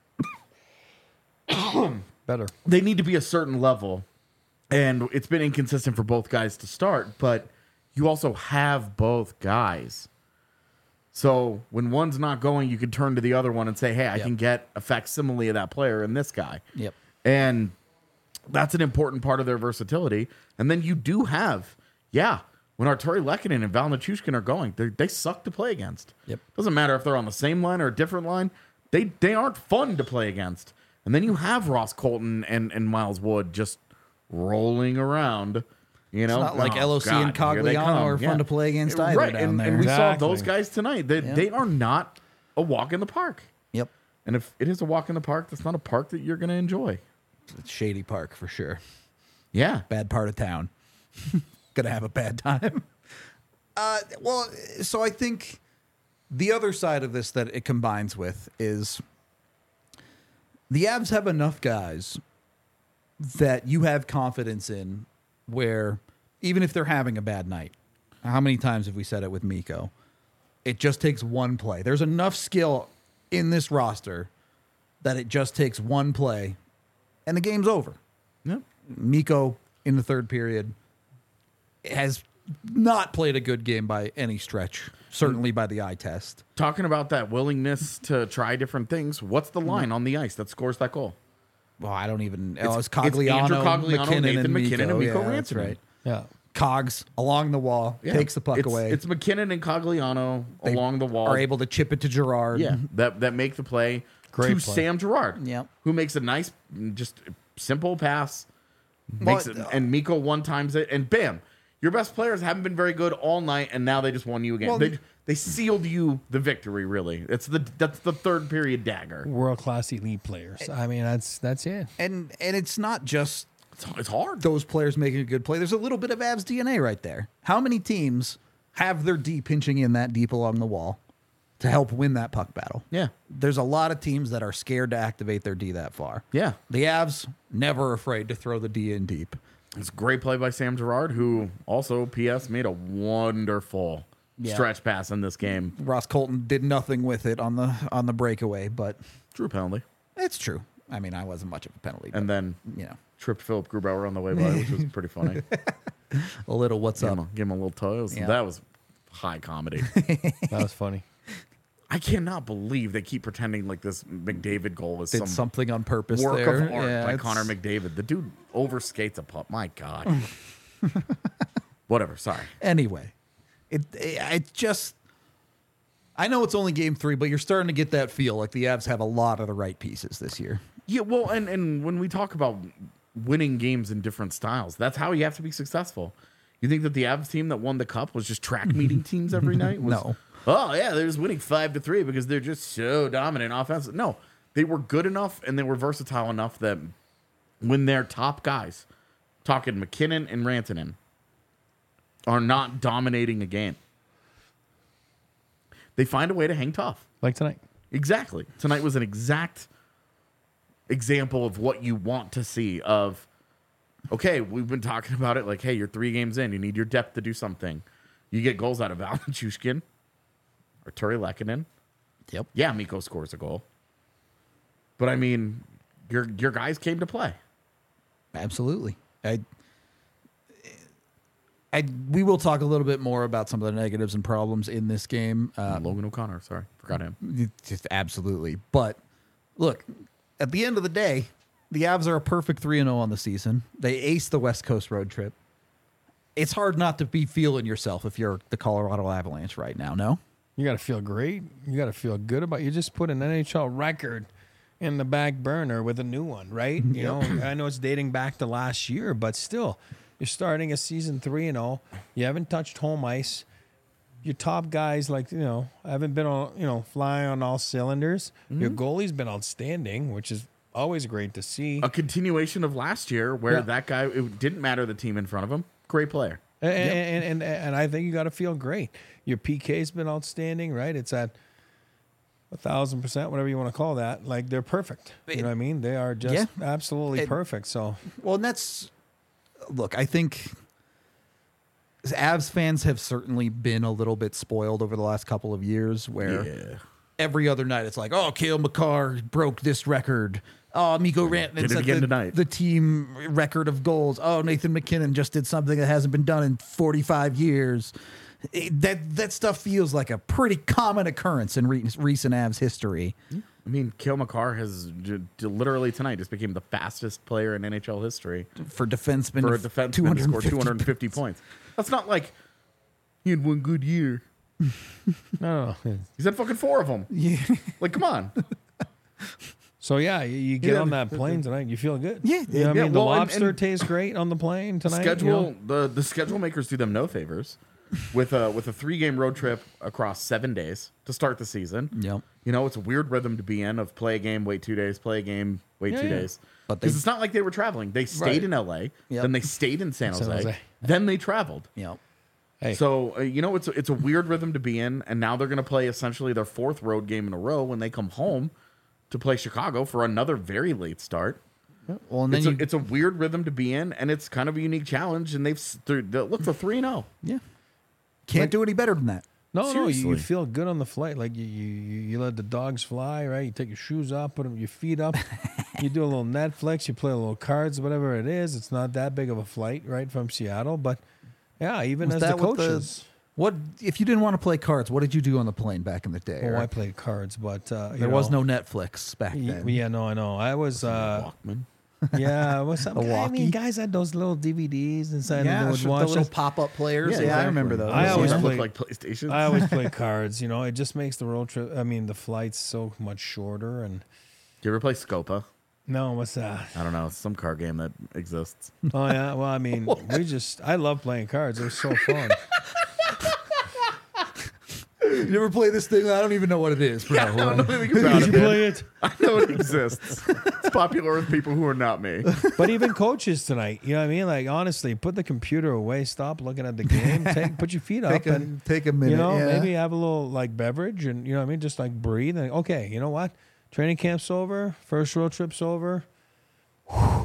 better. They need to be a certain level. And it's been inconsistent for both guys to start, but you also have both guys. So when one's not going, you can turn to the other one and say, hey, I can get a facsimile of that player in this guy. Yep. And that's an important part of their versatility. And then you do have, when Artturi Lehkonen and Val Nichushkin are going, they suck to play against. Yep. Doesn't matter if they're on the same line or a different line. They aren't fun to play against. And then you have Ross Colton and Miles Wood just rolling around. It's not like LOC and Cogliano are fun to play against either down there. And we saw those guys tonight. They are not a walk in the park. Yep. And if it is a walk in the park, that's not a park that you're going to enjoy. It's Shady Park for sure. Yeah. Bad part of town. Gonna have a bad time. So I think the other side of this that it combines with is the Avs have enough guys that you have confidence in, where even if they're having a bad night, how many times have we said it with Mikko? It just takes one play. There's enough skill in this roster that it just takes one play and the game's over. Yep. Mikko in the third period has not played a good game by any stretch, certainly by the eye test. Talking about that willingness to try different things, what's the line on the ice that scores that goal? Well, I don't even... It's Cogliano, Andrew Cogliano, McKinnon, Nathan McKinnon, and Mikko Rantanen. That's Rantanen. right. Yeah. Cogs along the wall, takes the puck away. It's McKinnon and Cogliano along the wall. Are able to chip it to Girard. Yeah, that make the play Great to play. Sam Girard, Yep. who makes a nice, just simple pass, Well, makes it, and Mikko one times it, and bam, your best players haven't been very good all night, and now they just won you again. Well, they sealed you the victory. Really, that's the third period dagger. World class elite players. I mean, that's it. And it's not just It's hard. those players making a good play. There's a little bit of Avs DNA right there. How many teams have their D pinching in that deep along the wall to help win that puck battle? Yeah, There's a lot of teams that are scared to activate their D that far. yeah. The Avs, never afraid to throw the D in deep. It's a great play by Sam Girard, who also, P.S., made a wonderful stretch pass in this game. Ross Colton did nothing with it on the breakaway, but Drew penalty. it's true. I mean, I wasn't much of a penalty. And but, then you know, tripped Philip Grubauer on the way by, which was pretty funny. a little what's up. Give him a little toy. Yeah. That was high comedy. That was funny. I cannot believe they keep pretending like this McDavid goal was Did some something on purpose work there. of art by it's- Connor McDavid. The dude overskates a puck. My God. Whatever. Sorry. Anyway, it just. I know it's only game 3, but you're starting to get that feel like the Avs have a lot of the right pieces this year. Yeah, well, and when we talk about winning games in different styles, that's how you have to be successful. You think that the Avs team that won the cup was just track meeting teams every night? No. Oh yeah, they're just winning 5-3 because they're just so dominant offensive. No, they were good enough and they were versatile enough that when their top guys, talking McKinnon and Rantanen, are not dominating a game, they find a way to hang tough. Like tonight. Exactly. Tonight was an exact example of what you want to see of, okay, we've been talking about it like, hey, you're 3 games in. You need your depth to do something. You get goals out of Valenchushkin or Turi Lehkonen. Yep. Yeah, Mikko scores a goal. But, I mean, your guys came to play. Absolutely. We will talk a little bit more about some of the negatives and problems in this game. Logan O'Connor, sorry. Forgot him. Just absolutely. But look, at the end of the day, the Avs are a perfect 3-0 on the season. They aced the West Coast road trip. It's hard not to be feeling yourself if you're the Colorado Avalanche right now, no? You got to feel great. You got to feel good about. You just put an NHL record in the back burner with a new one, right? You know, I know it's dating back to last year, but still, you're starting a season 3-0. You haven't touched home ice. Your top guys, like, you know, haven't been on, you know, flying on all cylinders. Your goalie's been outstanding, which is always great to see. A continuation of last year where Yeah. that guy, it didn't matter the team in front of him. Great player. And I think you got to feel great. Your PK's been outstanding, right? It's at 1,000%, whatever you want to call that. Like, they're perfect. You know what I mean? They are just absolutely perfect. So, Well, and that's look, I think Avs fans have certainly been a little bit spoiled over the last couple of years where Yeah. every other night it's like, oh, Cale Makar broke this record. Oh, Mikko Rantanen Did it set again tonight. the team record of goals. Oh, Nathan McKinnon just did something that hasn't been done in 45 years. That stuff feels like a pretty common occurrence in recent Avs history. I mean, Cale Makar has literally tonight just became the fastest player in NHL history For defensemen, for a defenseman to score 250 points. That's not like he had one good year. no. He's had fucking 4 of them. Yeah. Like, come on. So yeah, you get Yeah. on that plane tonight, you feel good. Yeah. You know what I Yeah, mean? well, the and- lobster and tastes great on the plane tonight. you Schedule know? the schedule makers do them no favors with a 3-game road trip across 7 days to start the season. Yep. You know, it's a weird rhythm to be in of play a game, wait 2 days, play a game, wait Yeah, 2 yeah. days. But Because they- it's not like they were traveling. They stayed Right. in LA, Yep. then they stayed in San Jose, Jose. then they traveled. Yep. Hey, So, you know, it's a weird rhythm to be in. And now they're going to play essentially their 4th road game in a row when they come home to play Chicago for another very late start. Well, and then It's a weird rhythm to be in, and it's kind of a unique challenge. And look, for 3-0. yeah, can't do any better than that. no, you seriously. feel good on the flight. Like you let the dogs fly, right? You take your shoes off, put your feet up. You do a little Netflix. You play a little cards, whatever it is. It's not that big of a flight, right, from Seattle. But yeah, even Was as the that what coaches. What if you didn't want to play cards? What did you do on the plane back in the day? Oh, I Eric? played cards, but There was no Netflix back then. Yeah, no, I know. I was. Walkman. Yeah, what's up? A I mean, walkie? guys had those little DVDs inside, and Yeah, they would the watch little it. pop-up players. Yeah, Yeah, I exactly. remember those. I always Those play- look like PlayStations. I always play cards. You know, it just makes the road trip. I mean, the flights so much shorter. And Do you ever play Scopa? no, what's that? I don't know. It's some card game that exists. Oh yeah. Well, I mean, I love playing cards. It was so fun. You ever play this thing? I don't even know what it is. Bro. I don't know anything about Did it. you man. play it? I know it exists. It's popular with people who are not me. But even coaches tonight, you know what I mean? Like honestly, put the computer away. Stop looking at the game. Put your feet up and Take a minute. you know, yeah. maybe have a little like beverage and you know what I mean, just like breathe and okay, you know what? Training camp's over, first road trip's over. Whew.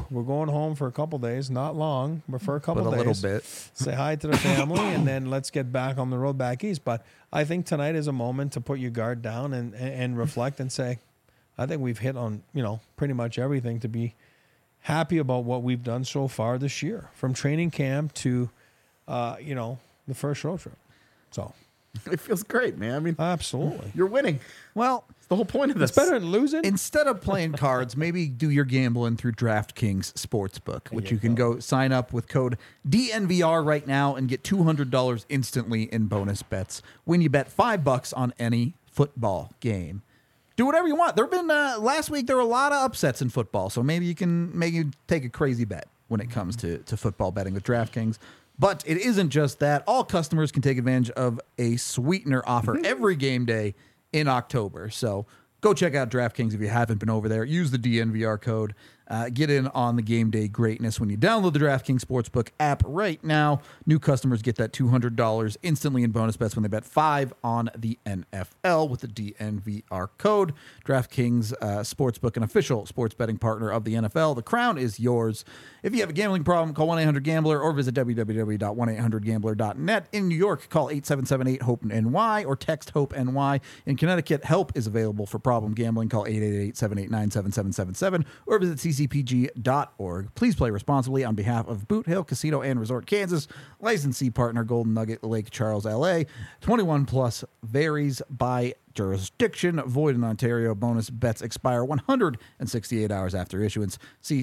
We're going home for a couple days, not long, but for a couple But a days. little bit. Say hi to the family, and then let's get back on the road back east. But I think tonight is a moment to put your guard down and reflect and say, I think we've hit on, pretty much everything to be happy about what we've done so far this year, from training camp to, the first road trip. So It feels great, man. I mean, absolutely, you're winning. Well, It's the whole point of this. it's better than losing. instead of playing cards, maybe do your gambling through DraftKings Sportsbook, which you can go sign up with code DNVR right now and get $200 instantly in bonus bets when you bet $5 on any football game. Do whatever you want. There have been last week there were a lot of upsets in football, so maybe you can take a crazy bet when it comes to football betting with DraftKings. But it isn't just that. All customers can take advantage of a sweetener offer every game day in October. So go check out DraftKings if you haven't been over there. Use the DNVR code. Get in on the game day greatness when you download the DraftKings Sportsbook app right now. New customers get that $200 instantly in bonus bets when they bet $5 on the NFL with the DNVR code. DraftKings Sportsbook, an official sports betting partner of the NFL. The crown is yours. If you have a gambling problem, call 1-800-GAMBLER or visit www.1800gambler.net. In New York, call 877-8-HOPE-NY or text HOPE-NY. In Connecticut, help is available for problem gambling. Call 888-789-7777 or visit ccpg.org. Please play responsibly on behalf of Boot Hill Casino and Resort, Kansas. Licensee partner Golden Nugget Lake Charles, LA. 21 plus, varies by jurisdiction. Void in Ontario. Bonus bets expire 168 hours after issuance. See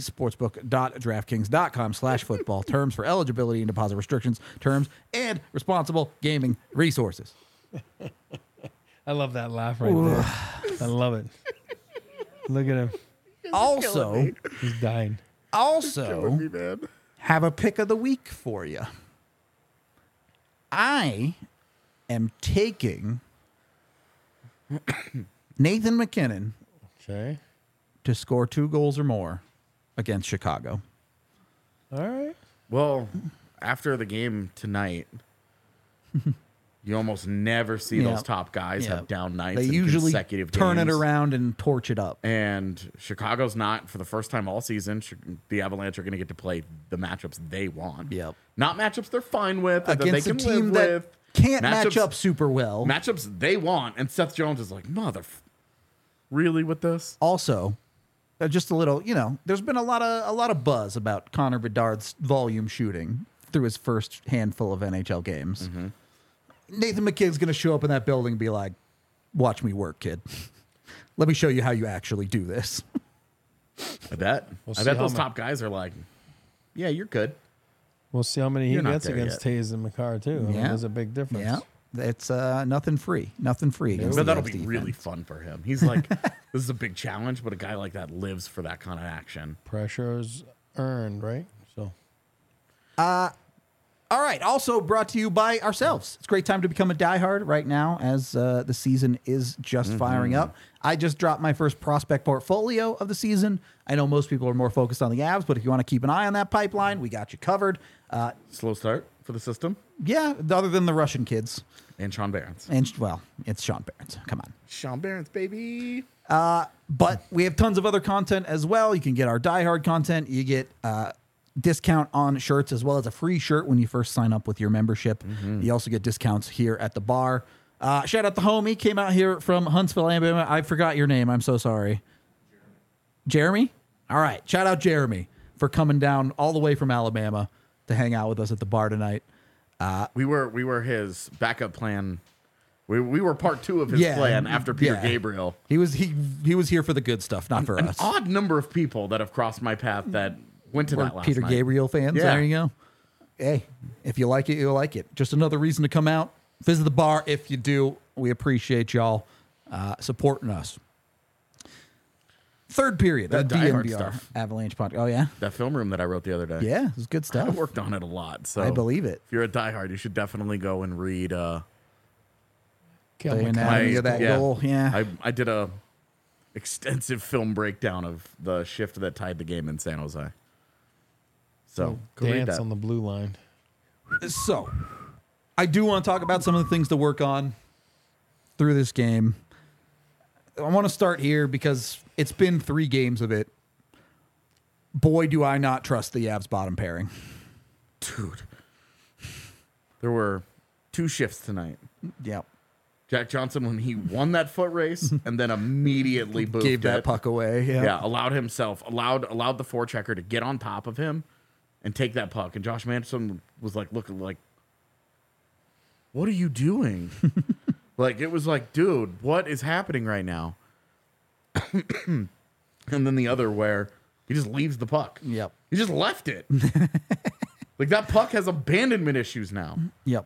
sportsbook.draftkings.com/football. Terms for eligibility and deposit restrictions, terms, and responsible gaming resources. I love that laugh right there. I love it. Look at him. Also, He's dying. Man. have a pick of the week for you. I am taking Nathan McKinnon Okay. to score 2 goals or more against Chicago. All right. Well, after the game tonight, you almost never see those top guys have down nights They in usually consecutive turn it games. around and torch it up. And Chicago's not, for the first time all season, the Avalanche are going to get to play the matchups they want. Yep. Not matchups they're fine with, that they Against a can team live that with. can't match Matchups- up super well. Matchups they want. And Seth Jones is like, really with this? Also, just a little, there's been a lot of buzz about Connor Bedard's volume shooting through his first handful of NHL games. Mm-hmm. Nathan McKinnon's going to show up in that building and be like, watch me work, kid. Let me show you how you actually do this. I bet. We'll I see bet how those ma- top guys are like, yeah, you're good. We'll see how many he You're not gets there against yet. Taves and McCarr, too. I mean, Yeah. there's a big difference. Yeah. It's nothing free. Nothing free. against But the that'll Avs be defense. really fun for him. He's like, this is a big challenge, but a guy like that lives for that kind of action. Pressure's earned, right? So All right. Also brought to you by ourselves. It's a great time to become a diehard right now as the season is just firing up. I just dropped my first prospect portfolio of the season. I know most people are more focused on the Avs, but if you want to keep an eye on that pipeline, we got you covered. Slow start for the system. Yeah, other than the Russian kids. And Sean Barons. And, well, it's Sean Barons. Come on. Sean Barons, baby. But we have tons of other content as well. You can get our diehard content. You get discount on shirts as well as a free shirt when you first sign up with your membership. You also get discounts here at the bar. Shout out the homie. Came out here from Huntsville, Alabama. I forgot your name. I'm so sorry. Jeremy? All right. Shout out Jeremy for coming down all the way from Alabama to hang out with us at the bar tonight. We were his backup plan. We were part 2 of his plan after Peter Gabriel. He was here for the good stuff, not for An us. odd number of people that have crossed my path that went to We're that last Peter night. Gabriel fans. Yeah. There you go. Hey, if you like it, you'll like it. Just another reason to come out, visit the bar. If you do, we appreciate y'all supporting us. Third period, That the Die Hard DNVR stuff. Avalanche podcast. Oh yeah, That film room that I wrote the other day. yeah, it was good I stuff. worked on it a lot. So I believe it. If you're a diehard, you should definitely go and read. Kill The McCarr. anatomy of that goal. Yeah, I did a extensive film breakdown of the shift that tied the game in San Jose. So go read Dance that. on the blue line. So, I do want to talk about some of the things to work on through this game. I want to start here because it's been 3 games of it. boy, do I not trust the Avs bottom pairing. Dude. There were 2 shifts tonight. Yep. Jack Johnson, when he won that foot race and then immediately boofed Gave that it. puck away. Yeah, allowed the forechecker to get on top of him and take that puck. And Josh Manson was like looking like, what are you doing? Like, it was like, dude, what is happening right now? And then the other where he just leaves the puck. Yep. He just left it. Like, that puck has abandonment issues now. Yep.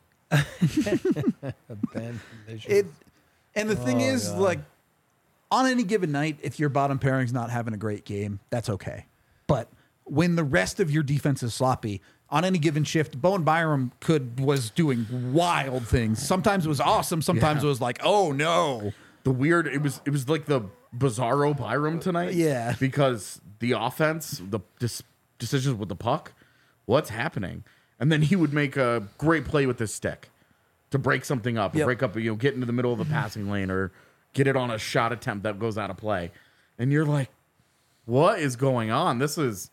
And the thing is, God. like, on any given night, if your bottom pairing's not having a great game, that's okay. But when the rest of your defense is sloppy, on any given shift, Bowen Byram was doing wild things. Sometimes it was awesome. Sometimes it was like, oh no. It was like the bizarro Byram tonight. Yeah. Because the offense, the decisions with the puck, what's happening? And then he would make a great play with his stick to break something up, or break up, get into the middle of the passing lane, or get it on a shot attempt that goes out of play. And you're like, what is going on? This is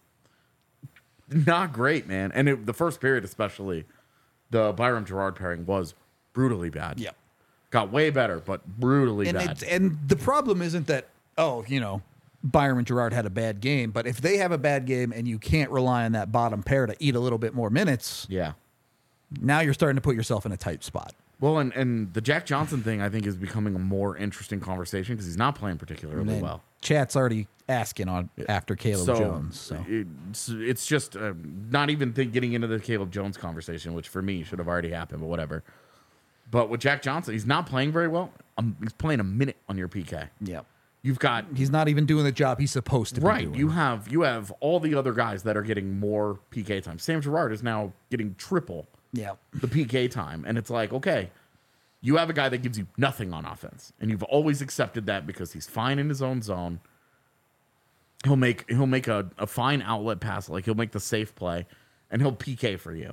not great, man. And the first period, especially, the Byram Girard pairing was brutally bad. Yep. Got way better, but brutally bad. And the problem isn't that, Byram and Girard had a bad game, but if they have a bad game and you can't rely on that bottom pair to eat a little bit more minutes, Yeah. now you're starting to put yourself in a tight spot. Well, and the Jack Johnson thing, I think, is becoming a more interesting conversation because he's not playing particularly And well. Chat's already asking after Caleb So, Jones. So it's just not even getting into the Caleb Jones conversation, which for me should have already happened, but whatever. But with Jack Johnson, he's not playing very well. He's playing a minute on your PK. yeah, You've got he's not even doing the job he's supposed to be right. doing. You have all the other guys that are getting more PK time. Sam Girard is now getting triple Yeah. the PK time, and it's like, okay, you have a guy that gives you nothing on offense, and you've always accepted that because he's fine in his own zone. He'll make a fine outlet pass, like he'll make the safe play, and he'll PK for you.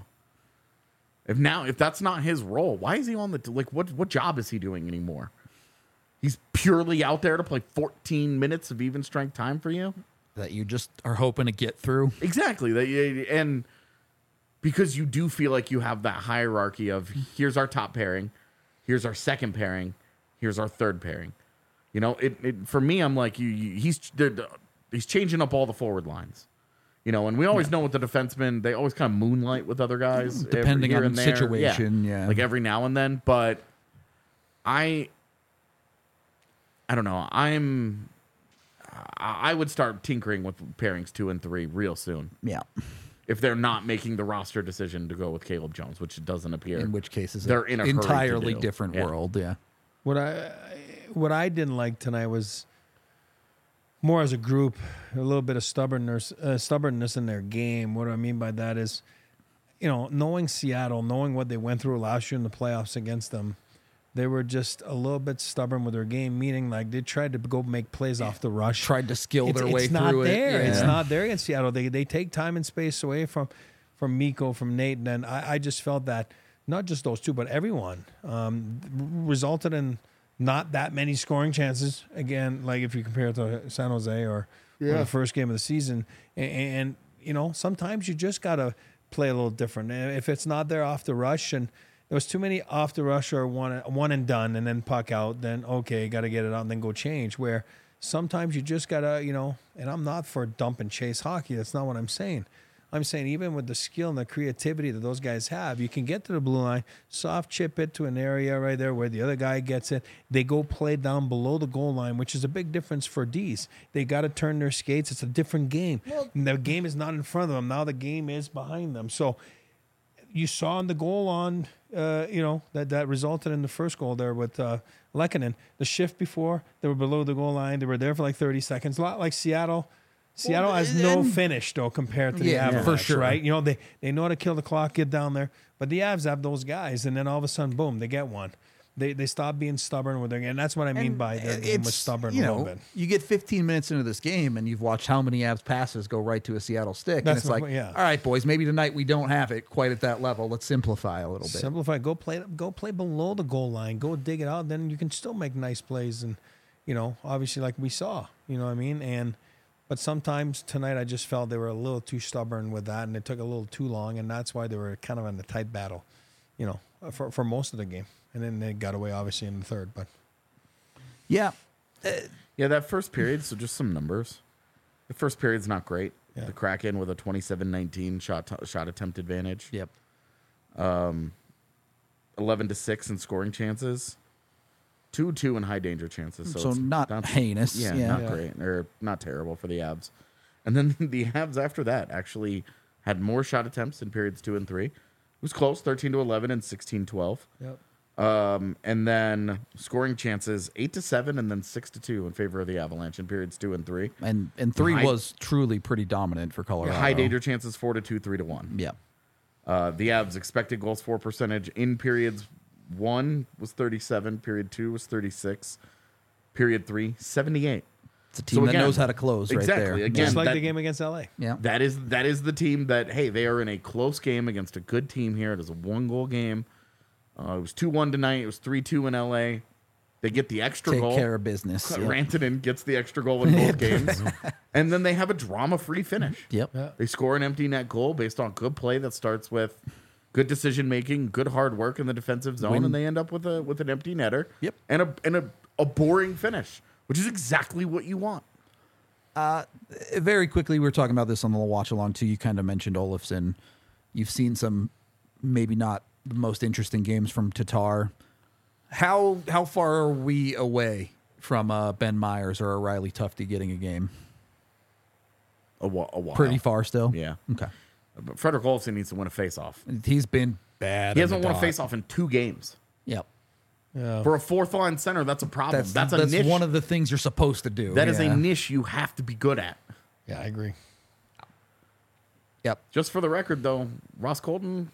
If that's not his role, why is he on what job is he doing anymore? He's purely out there to play 14 minutes of even strength time for you? That you just are hoping to get through. Exactly. And because you do feel like you have that hierarchy of here's our top pairing, here's our second pairing, here's our third pairing. For me, I'm like, he's changing up all the forward lines. And we always know with the defensemen, they always kind of moonlight with other guys. Depending here on and the there. situation, yeah. Like every now and then. But I don't know. I would start tinkering with pairings 2 and 3 real soon. Yeah. If they're not making the roster decision to go with Caleb Jones, which it doesn't appear. In which case is they're in a hurry to entirely do. different Yeah. world. Yeah. What I didn't like tonight was more as a group, a little bit of stubbornness in their game. What I mean by that is, knowing Seattle, knowing what they went through last year in the playoffs against them, they were just a little bit stubborn with their game, meaning like they tried to go make plays off the rush. Tried to skill their way it's not through there. it. It's Yeah. not there against Seattle. They take time and space away from Mikko, from Nate, and then I just felt that not just those two, but everyone resulted in not that many scoring chances. Again, like if you compare it to San Jose or the first game of the season, and sometimes you just gotta play a little different. If it's not there off the rush, and there was too many off the rush or one and done, and then puck out, then okay, got to get it out and then go change. Where sometimes you just gotta, and I'm not for dump and chase hockey. That's not what I'm saying. I'm saying even with the skill and the creativity that those guys have, you can get to the blue line, soft chip it to an area right there where the other guy gets it. They go play down below the goal line, which is a big difference for D's. They got to turn their skates. It's a different game. And the game is not in front of them. Now the game is behind them. So you saw in the goal on, that resulted in the first goal there with Lehkonen. The shift before, they were below the goal line. They were there for like 30 seconds. A lot like Seattle. Seattle has no finish, though, compared to the Avalanche, for sure. right? They know how to kill the clock, get down there. But the Avs have those guys, and then all of a sudden, boom, they get one. They stop being stubborn with their game. And that's what I mean by their game was stubborn a little bit. You get 15 minutes into this game, and you've watched how many Avs passes go right to a Seattle stick. That's and it's my like, point, yeah. all right, boys, maybe tonight we don't have it quite at that level. Let's simplify a little bit. Simplify. Go play below the goal line. Go dig it out. Then you can still make nice plays. And, obviously like we saw, you know what I mean? And But sometimes tonight I just felt they were a little too stubborn with that, and it took a little too long, and that's why they were kind of in a tight battle, for most of the game. And then they got away, obviously, in the third. But Yeah. Yeah, that first period, so just some numbers. The first period's not great. Yeah. The Kraken with a 27-19 shot attempt advantage. Yep. 11-6 in scoring chances. 2-2 in high danger chances. So it's not heinous. Yeah, Yeah. not great or not terrible for the Avs. And then the Avs after that actually had more shot attempts in periods 2 and 3. It was close, 13-11 and 16-12. yep. And then scoring chances 8-7 and then 6-2 in favor of the Avalanche in periods 2 and 3. And 3 High- was truly pretty dominant for Colorado. High danger chances 4-2, 3-1. Yeah. The Avs expected goals for percentage in periods 1 was 37, period 2 was 36, period 3 78. It's a team So that again, knows how to close right exactly, there. again, Just like that- the game against LA. Yeah. That is the team that, hey, they are in a close game against a good team here. It is a 1-goal game. It was 2-1 tonight. It was 3-2 in LA. They get the extra Take goal. care of business. Yep. Rantanen gets the extra goal in both games. And then they have a drama-free finish. Yep. Yeah. They score an empty net goal based on good play that starts with good decision-making, good hard work in the defensive zone, and they end up with an empty netter. Yep. And a boring finish, which is exactly what you want. Very quickly, we were talking about this on the watch along too. You kind of mentioned Olofsson. You've seen some maybe not the most interesting games from Tatar. How far are we away from Ben Myers or a Riley Tufte getting a game? A while. Pretty far still. Yeah. Okay. But Frederick Olofsson needs to win a face-off. He's been bad. He in the hasn't won a dot. face-off in 2 games. Yep. Yeah. For a fourth-line center, that's a problem. That's a that's niche. one of the things you're supposed to do. That is Yeah. a niche you have to be good at. Yeah, I agree. Yep. Just for the record, though, Ross Colton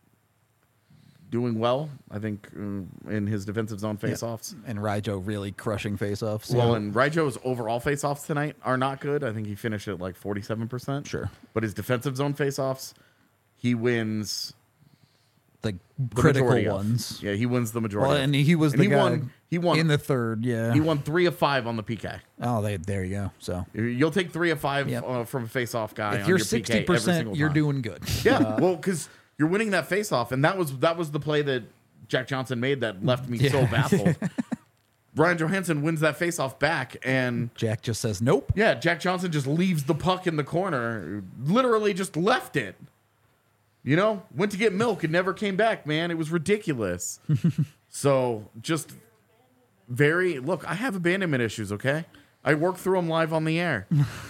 doing well, I think, in his defensive zone faceoffs. And Rijo really crushing faceoffs. Well, and Rijo's overall faceoffs tonight are not good. I think he finished at like 47%. Sure. But his defensive zone faceoffs, he wins the the critical majority of. ones. Yeah, he wins the majority. Well, of. and he was the guy He won in the third. Yeah. He won 3 of 5 on the PK. Oh, there you go. So You'll take 3 of 5 Yep. From a face-off guy. if on you're your PK every 60%, single you're time. doing good. Yeah, well, because you're winning that face-off, and that was the play that Jack Johnson made that left me so baffled. Ryan Johansson wins that face-off back, and Jack just says nope. yeah, Jack Johnson just leaves the puck in the corner, literally just left it. You know, went to get milk and never came back, man. It was ridiculous. So just look, I have abandonment issues, okay? I work through them live on the air.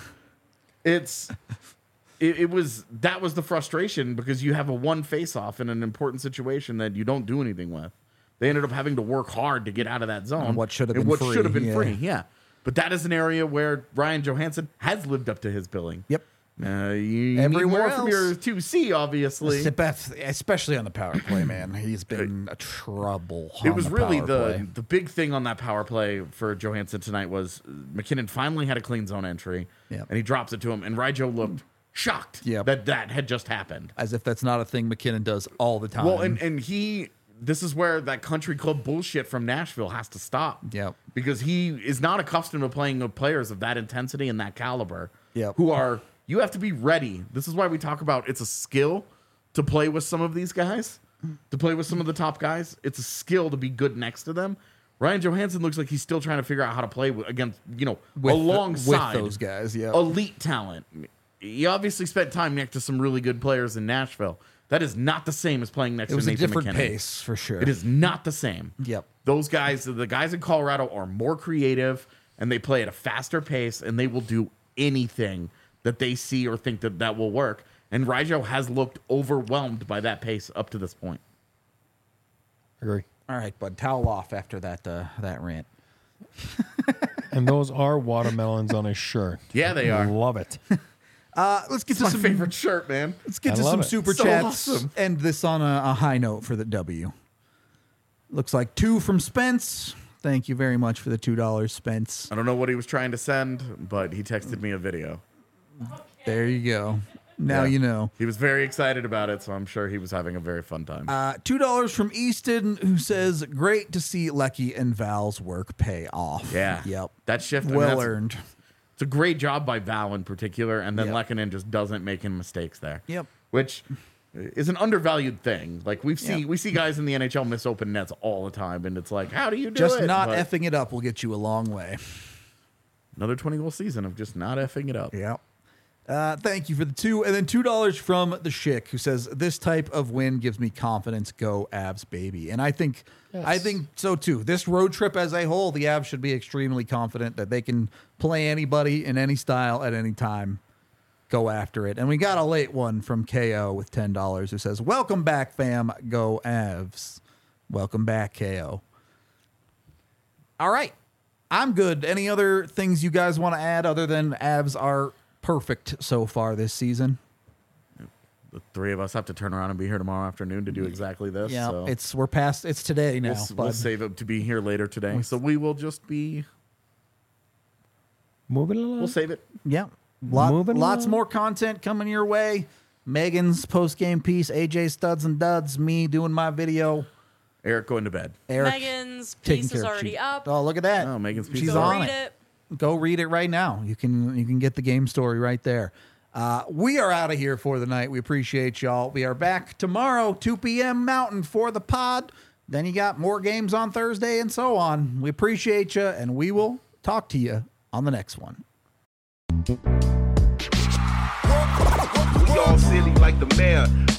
That was the frustration because you have a one face-off in an important situation that you don't do anything with. They ended up having to work hard to get out of that zone. On what should have And been what free, should have been yeah. free, yeah. But that is an area where Ryan Johansson has lived up to his billing. Yep. You need Everywhere more from your else. 2C, obviously. Especially on the power play, man. He's been a trouble. It on was the really power the play. the big thing on that power play for Johansson tonight was McKinnon finally had a clean zone entry, Yep. and he drops it to him, and Rijo looked shocked Yep. that had just happened. as if that's not a thing McKinnon does all the time. Well, and this is where that country club bullshit from Nashville has to stop. Yep. Because he is not accustomed to playing with players of that intensity and that caliber. Yep. You have to be ready. This is why we talk about it's a skill to play with some of these guys, to play with some of the top guys. It's a skill to be good next to them. Ryan Johansson looks like he's still trying to figure out how to play against, alongside with those guys. Yeah. elite talent. He obviously spent time next to some really good players in Nashville. That is not the same as playing next It was to a Nathan different McKinnon. pace for sure. It is not the same. Yep. Those guys, the guys in Colorado, are more creative and they play at a faster pace and they will do anything that they see or think that will work. And Rijo has looked overwhelmed by that pace up to this point. Agree. All right, bud. Towel off after that rant. And those are watermelons on his shirt. Yeah, they are. Love it. Let's get It's to my some favorite shirt, man. Let's get I to love some it. super So chats. awesome. End this on a high note for the W. Looks like 2 from Spence. Thank you very much for the $2, Spence. I don't know what he was trying to send, but he texted me a video. There you go. Now Yeah. you know. He was very excited about it, so I'm sure he was having a very fun time. $2 from Easton, who says, "Great to see Lecky and Val's work pay off." yeah. Yep. That shift. Well that's earned. it's a great job by Val in particular, and then Yep. Lehkonen just doesn't make any mistakes there. Yep. Which is an undervalued thing. Like we see Yep. guys in the NHL miss open nets all the time, and it's like, how do you do Just it? not But effing it up will get you a long way. another 20-goal season of just not effing it up. Yeah. Thank you for the $2. And then $2 from the Schick, who says, this type of win gives me confidence. Go Avs, baby. And I think so too. This road trip as a whole, the Avs should be extremely confident that they can play anybody in any style at any time. Go after it. And we got a late one from KO with $10 who says, welcome back, fam. Go Avs. Welcome back, KO. All right. I'm good. Any other things you guys want to add other than Avs are perfect so far this season? The three of us have to turn around and be here tomorrow afternoon to do exactly this. Yeah, so we're past. It's today now. we'll save it to be here later today. So we will just be. Moving along. We'll save it. Yeah, Moving lots along. more content coming your way. Megan's post game piece, AJ Studs and Duds, me doing my video, Eric going to bed. Eric Megan's taking piece care is of already she- up. Oh, look at that! Oh, Megan's piece She's is Go on read it. it. Go read it right now. You can get the game story right there. We are out of here for the night. We appreciate y'all. We are back tomorrow, 2 p.m. Mountain for the pod. Then you got more games on Thursday and so on. We appreciate you, and we will talk to you on the next one. We all silly like the mayor.